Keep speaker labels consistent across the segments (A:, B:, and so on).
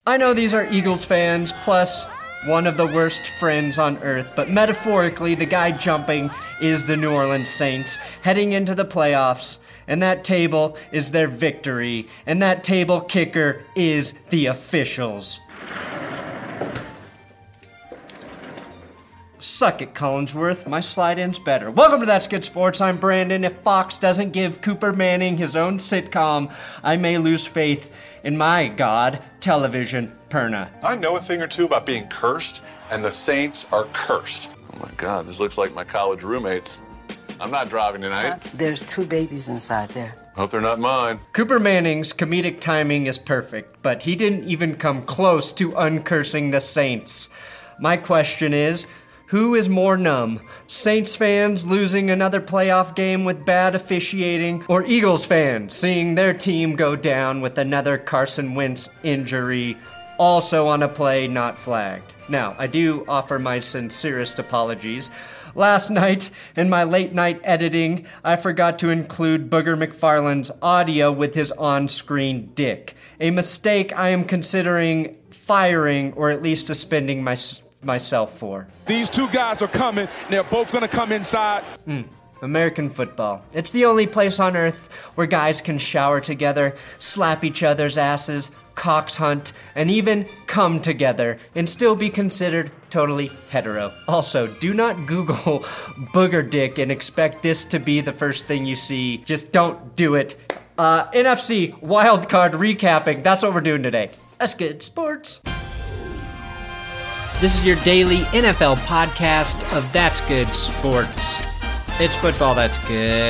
A: I know these are Eagles fans, plus one of the worst friends on earth, but metaphorically, the guy jumping is the New Orleans Saints, heading into the playoffs, and that table is their victory, and that table kicker is the officials. Suck it, Collinsworth. My slide-in's better. Welcome to That's Good Sports. I'm Brandon. If Fox doesn't give Cooper Manning his own sitcom, I may lose faith in my god, television, Perna.
B: I know a thing or two about being cursed, and the Saints are cursed.
C: Oh my God, this looks like my college roommates. I'm not driving tonight.
D: There's 2 babies inside there.
C: Hope they're not mine.
A: Cooper Manning's comedic timing is perfect, but he didn't even come close to uncursing the Saints. My question is, who is more numb? Saints fans losing another playoff game with bad officiating, or Eagles fans seeing their team go down with another Carson Wentz injury, also on a play not flagged? Now, I do offer my sincerest apologies. Last night, in my late-night editing, I forgot to include Booger McFarland's audio with his on-screen dick. A mistake I am considering firing or at least suspending myself for.
E: These 2 guys are coming. They're both going to come inside.
A: American football. It's the only place on earth where guys can shower together, slap each other's asses, cocks hunt, and even come together and still be considered totally hetero. Also, do not Google booger dick and expect this to be the first thing you see. Just don't do it. NFC wildcard recapping. That's what we're doing today. That's good sports. This is your daily NFL podcast of That's Good Sports. It's football that's good.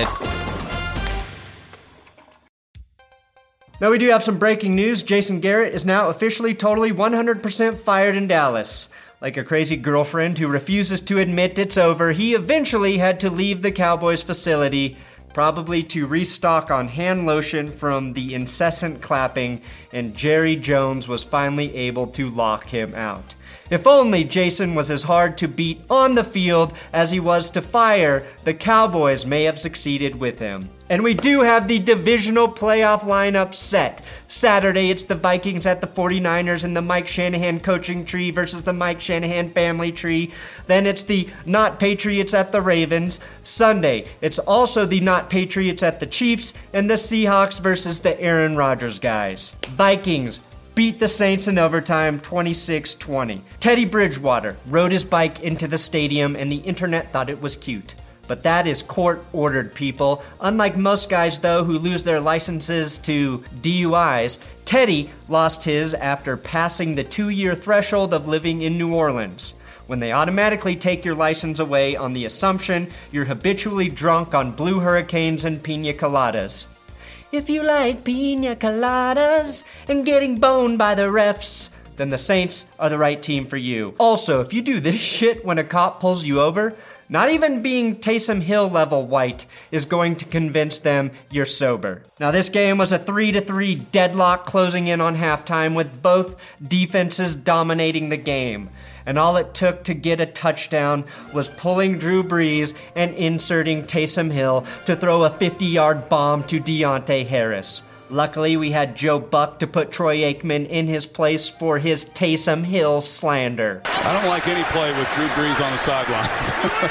A: Now we do have some breaking news. Jason Garrett is now officially totally 100% fired in Dallas. Like a crazy girlfriend who refuses to admit it's over, he eventually had to leave the Cowboys facility, probably to restock on hand lotion from the incessant clapping, and Jerry Jones was finally able to lock him out. If only Jason was as hard to beat on the field as he was to fire, the Cowboys may have succeeded with him. And we do have the divisional playoff lineup set. Saturday, it's the Vikings at the 49ers in the Mike Shanahan coaching tree versus the Mike Shanahan family tree. Then it's the not Patriots at the Ravens. Sunday, it's also the not Patriots at the Chiefs and the Seahawks versus the Aaron Rodgers guys. Vikings beat the Saints in overtime 26-20. Teddy Bridgewater rode his bike into the stadium and the internet thought it was cute. But that is court-ordered, people. Unlike most guys, though, who lose their licenses to DUIs, Teddy lost his after passing the 2-year threshold of living in New Orleans, when they automatically take your license away on the assumption you're habitually drunk on Blue Hurricanes and pina coladas. If you like pina coladas and getting boned by the refs, then the Saints are the right team for you. Also, if you do this shit when a cop pulls you over, not even being Taysom Hill level white is going to convince them you're sober. Now, this game was a 3-3 deadlock closing in on halftime with both defenses dominating the game. And all it took to get a touchdown was pulling Drew Brees and inserting Taysom Hill to throw a 50-yard bomb to Deontay Harris. Luckily, we had Joe Buck to put Troy Aikman in his place for his Taysom Hill slander.
E: I don't like any play with Drew Brees on the sidelines.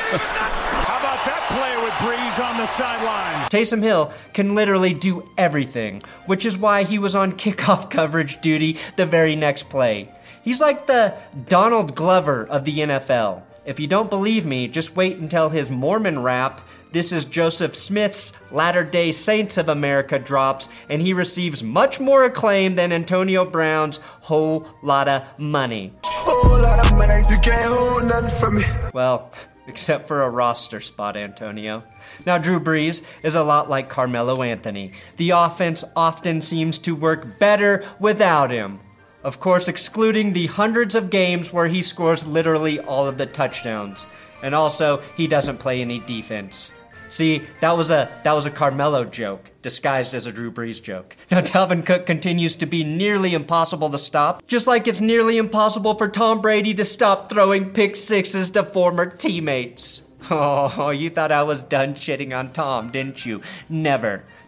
F: How about that play with Brees on the sideline?
A: Taysom Hill can literally do everything, which is why he was on kickoff coverage duty the very next play. He's like the Donald Glover of the NFL. If you don't believe me, just wait until his Mormon rap, "This is Joseph Smith's Latter-day Saints of America" drops, and he receives much more acclaim than Antonio Brown's Whole Lotta Money.
G: Whole lot of money, you can't hold nothing from me.
A: Well, except for a roster spot, Antonio. Now, Drew Brees is a lot like Carmelo Anthony. The offense often seems to work better without him. Of course, excluding the hundreds of games where he scores literally all of the touchdowns. And also, he doesn't play any defense. See, that was a Carmelo joke, disguised as a Drew Brees joke. Now, Dalvin Cook continues to be nearly impossible to stop, just like it's nearly impossible for Tom Brady to stop throwing pick sixes to former teammates. Oh, you thought I was done shitting on Tom, didn't you? Never.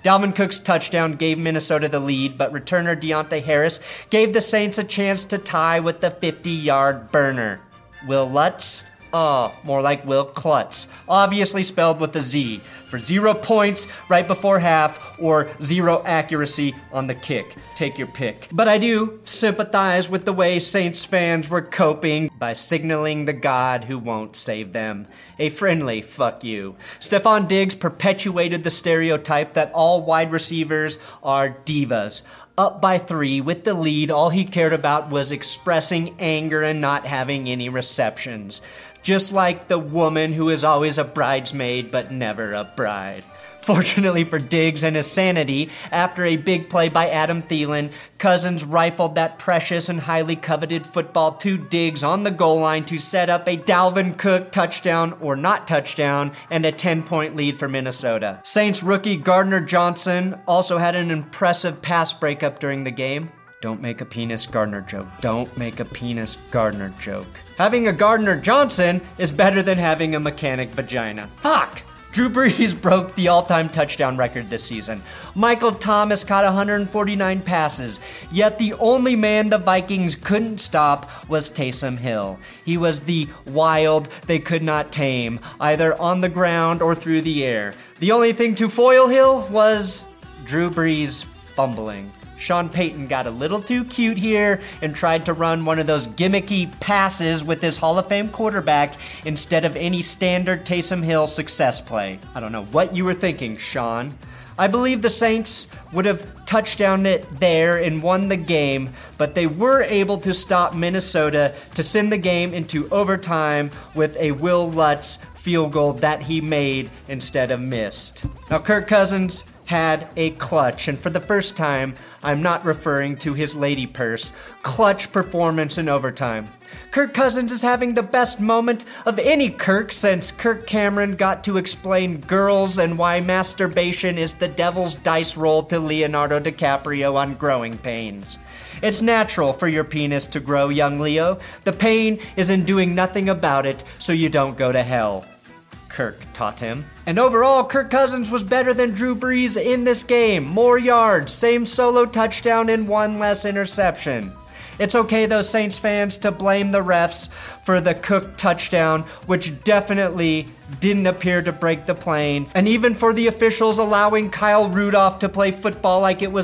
A: Dalvin Cook's touchdown gave Minnesota the lead, but returner Deontay Harris gave the Saints a chance to tie with the 50-yard burner. Will Lutz? Oh, more like Will Klutz, obviously spelled with a Z, for 0 points right before half or 0 accuracy on the kick. Take your pick. But I do sympathize with the way Saints fans were coping by signaling the God who won't save them. A friendly fuck you. Stephon Diggs perpetuated the stereotype that all wide receivers are divas. Up by 3 with the lead, all he cared about was expressing anger and not having any receptions. Just like the woman who is always a bridesmaid but never a bride. Fortunately for Diggs and his sanity, after a big play by Adam Thielen, Cousins rifled that precious and highly coveted football to Diggs on the goal line to set up a Dalvin Cook touchdown or not touchdown and a 10-point lead for Minnesota. Saints rookie Gardner Johnson also had an impressive pass breakup during the game. Don't make a penis Gardner joke. Don't make a penis Gardner joke. Having a Gardner Johnson is better than having a mechanic vagina. Fuck! Drew Brees broke the all-time touchdown record this season. Michael Thomas caught 149 passes, yet the only man the Vikings couldn't stop was Taysom Hill. He was the wild they could not tame, either on the ground or through the air. The only thing to foil Hill was Drew Brees fumbling. Sean Payton got a little too cute here and tried to run one of those gimmicky passes with his Hall of Fame quarterback instead of any standard Taysom Hill success play. I don't know what you were thinking, Sean. I believe the Saints would have touchdowned it there and won the game, but they were able to stop Minnesota to send the game into overtime with a Will Lutz field goal that he made instead of missed. Now, Kirk Cousins had a clutch, and for the first time, I'm not referring to his lady purse, clutch performance in overtime. Kirk Cousins is having the best moment of any Kirk since Kirk Cameron got to explain girls and why masturbation is the devil's dice roll to Leonardo DiCaprio on Growing Pains. It's natural for your penis to grow, young Leo. The pain is in doing nothing about it so you don't go to hell. Kirk taught him. And overall, Kirk Cousins was better than Drew Brees in this game. More yards, same solo touchdown, and 1 less interception. It's okay, though, Saints fans, to blame the refs for the Cook touchdown, which definitely didn't appear to break the plane, and even for the officials allowing Kyle Rudolph to play football like it was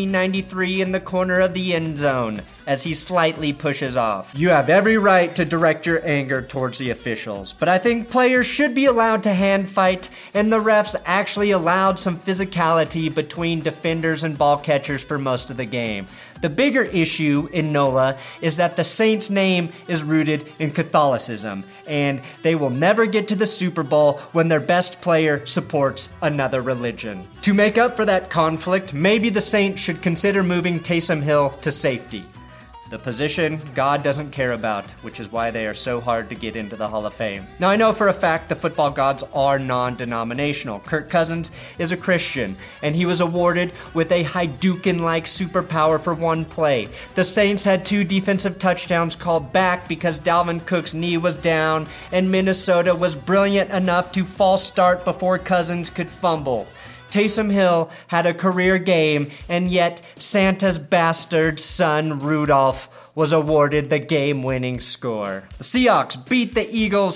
A: 1993 in the corner of the end zone, as he slightly pushes off. You have every right to direct your anger towards the officials, but I think players should be allowed to hand fight, and the refs actually allowed some physicality between defenders and ball catchers for most of the game. The bigger issue in NOLA is that the Saints' name is rooted in Catholicism, and they will never get to the Super Bowl when their best player supports another religion. To make up for that conflict, maybe the Saints should consider moving Taysom Hill to safety. The position God doesn't care about, which is why they are so hard to get into the Hall of Fame. Now, I know for a fact the football gods are non-denominational. Kirk Cousins is a Christian, and he was awarded with a Hadouken-like superpower for one play. The Saints had 2 defensive touchdowns called back because Dalvin Cook's knee was down, and Minnesota was brilliant enough to false start before Cousins could fumble. Taysom Hill had a career game, and yet Santa's bastard son Rudolph was awarded the game-winning score. The Seahawks beat the Eagles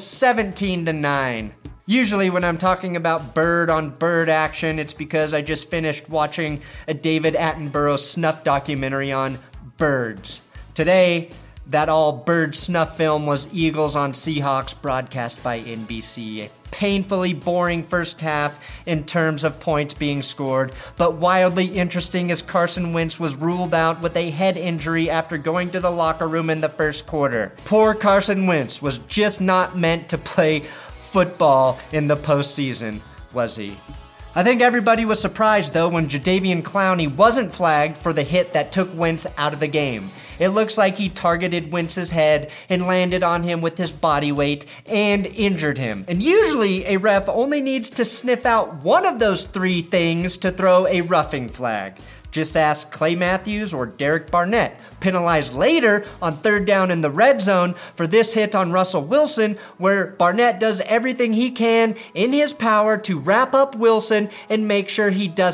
A: 17-9. Usually when I'm talking about bird-on-bird action, it's because I just finished watching a David Attenborough snuff documentary on birds. Today, that all-bird snuff film was Eagles on Seahawks, broadcast by NBC. Painfully boring first half in terms of points being scored, but wildly interesting as Carson Wentz was ruled out with a head injury after going to the locker room in the first quarter. Poor Carson Wentz was just not meant to play football in the postseason, was he? I think everybody was surprised, though, when Jadeveon Clowney wasn't flagged for the hit that took Wentz out of the game. It looks like he targeted Wentz's head and landed on him with his body weight and injured him. And usually, a ref only needs to sniff out one of those 3 things to throw a roughing flag. Just ask Clay Matthews or Derek Barnett, penalized later on 3rd down in the red zone for this hit on Russell Wilson, where Barnett does everything he can in his power to wrap up Wilson and make sure he doesn't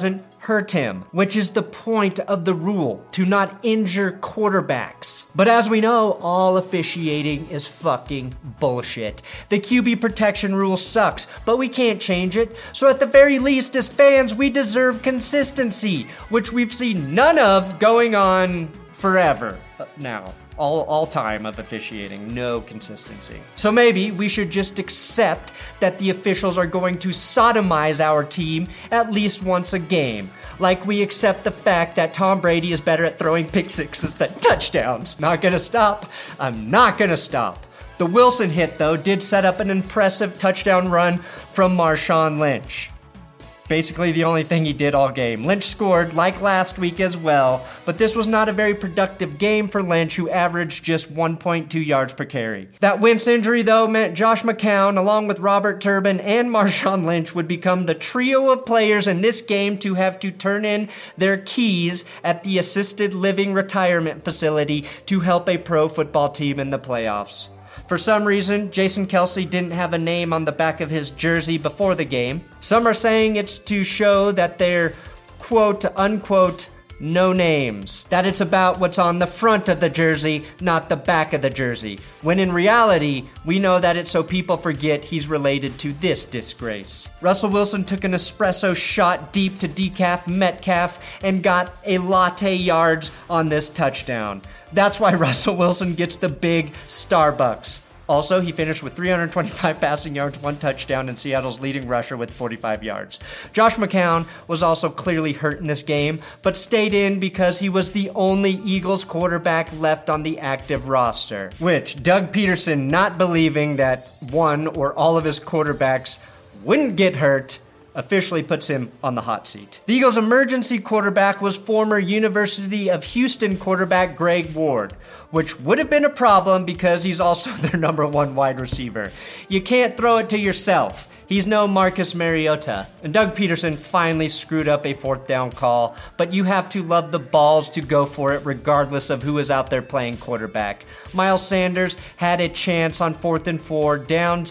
A: hurt him, which is the point of the rule, to not injure quarterbacks. But as we know, all officiating is fucking bullshit. The QB protection rule sucks, but we can't change it. So at the very least, as fans, we deserve consistency, which we've seen none of going on forever now. All time of officiating, no consistency. So maybe we should just accept that the officials are going to sodomize our team at least once a game. Like we accept the fact that Tom Brady is better at throwing pick sixes than touchdowns. Not gonna stop. I'm not gonna stop. The Wilson hit, though, did set up an impressive touchdown run from Marshawn Lynch. Basically the only thing he did all game. Lynch scored, like last week as well, but this was not a very productive game for Lynch, who averaged just 1.2 yards per carry. That Wentz injury, though, meant Josh McCown, along with Robert Turbin and Marshawn Lynch, would become the trio of players in this game to have to turn in their keys at the assisted living retirement facility to help a pro football team in the playoffs. For some reason, Jason Kelce didn't have a name on the back of his jersey before the game. Some are saying it's to show that they're quote unquote no names, that it's about what's on the front of the jersey, not the back of the jersey, when in reality, we know that it's so people forget he's related to this disgrace. Russell Wilson took an espresso shot deep to decaf Metcalf and got a latte yards on this touchdown. That's why Russell Wilson gets the big Starbucks. Also, he finished with 325 passing yards, 1 touchdown, and Seattle's leading rusher with 45 yards. Josh McCown was also clearly hurt in this game, but stayed in because he was the only Eagles quarterback left on the active roster, which Doug Peterson, not believing that one or all of his quarterbacks wouldn't get hurt, officially puts him on the hot seat. The Eagles' emergency quarterback was former University of Houston quarterback Greg Ward, which would have been a problem because he's also their number 1 wide receiver. You can't throw it to yourself. He's no Marcus Mariota. And Doug Peterson finally screwed up a 4th down call, but you have to love the balls to go for it regardless of who is out there playing quarterback. Miles Sanders had a chance on 4th and 4, down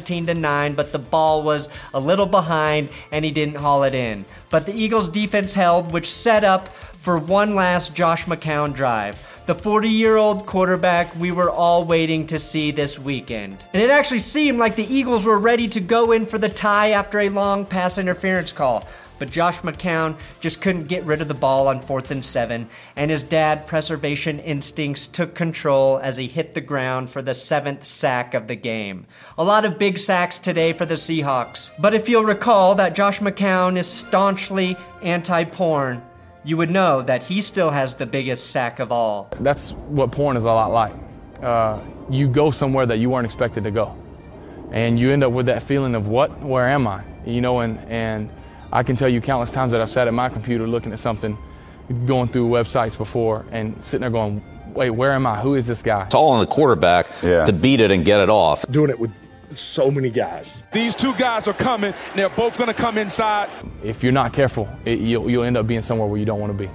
A: 17-9, but the ball was a little behind and he didn't haul it in. But the Eagles' defense held, which set up for one last Josh McCown drive. The 40-year-old quarterback we were all waiting to see this weekend. And it actually seemed like the Eagles were ready to go in for the tie after a long pass interference call. But Josh McCown just couldn't get rid of the ball on 4th and 7, and his dad preservation instincts took control as he hit the ground for the 7th sack of the game. A lot of big sacks today for the Seahawks. But if you'll recall that Josh McCown is staunchly anti-porn, you would know that he still has the biggest sack of all.
H: That's what porn is a lot like. You go somewhere that you weren't expected to go. And you end up with that feeling of where am I? You know, and I can tell you countless times that I've sat at my computer looking at something, going through websites before and sitting there going, wait, where am I? Who is this guy?
I: It's all on the quarterback to beat it and get it off.
J: Doing it with so many guys.
E: These 2 guys are coming. They're both going to come inside.
H: If you're not careful, you'll end up being somewhere where you don't want to be.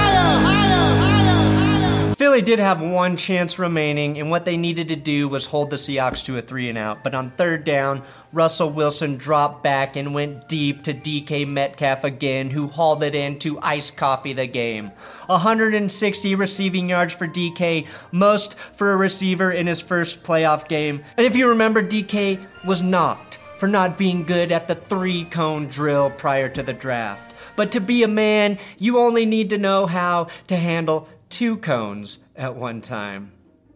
A: Philly did have 1 chance remaining, and what they needed to do was hold the Seahawks to a 3-and-out. But on 3rd down, Russell Wilson dropped back and went deep to DK Metcalf again, who hauled it in to ice coffee the game. 160 receiving yards for DK, most for a receiver in his first playoff game. And if you remember, DK was knocked for not being good at the 3-cone drill prior to the draft. But to be a man, you only need to know how to handle 2 cones at one time.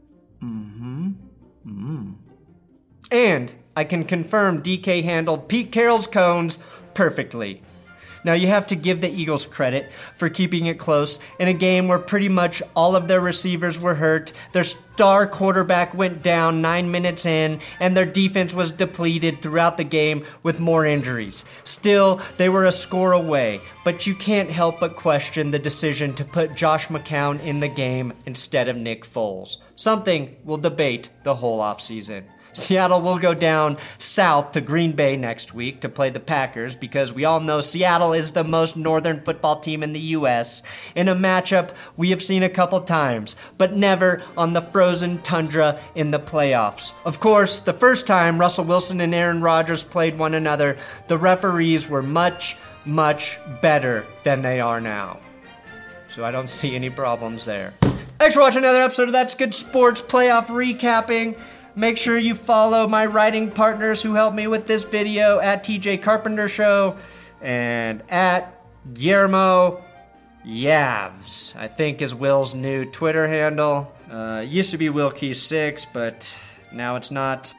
A: And I can confirm DK handled Pete Carroll's cones perfectly. Now, you have to give the Eagles credit for keeping it close in a game where pretty much all of their receivers were hurt, their star quarterback went down 9 minutes in, and their defense was depleted throughout the game with more injuries. Still, they were a score away, but you can't help but question the decision to put Josh McCown in the game instead of Nick Foles, something we'll debate the whole offseason. Seattle will go down south to Green Bay next week to play the Packers because we all know Seattle is the most northern football team in the U.S. in a matchup we have seen a couple times, but never on the frozen tundra in the playoffs. Of course, the first time Russell Wilson and Aaron Rodgers played one another, the referees were much, much better than they are now. So I don't see any problems there. Thanks for watching another episode of That's Good Sports Playoff Recapping. Make sure you follow my writing partners who helped me with this video at TJ Carpenter Show and at Guillermo Yavs, I think is Will's new Twitter handle. Used to be WillKey6, but now it's not.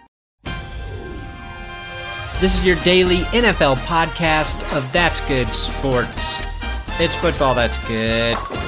A: This is your daily NFL podcast of That's Good Sports. It's football that's good.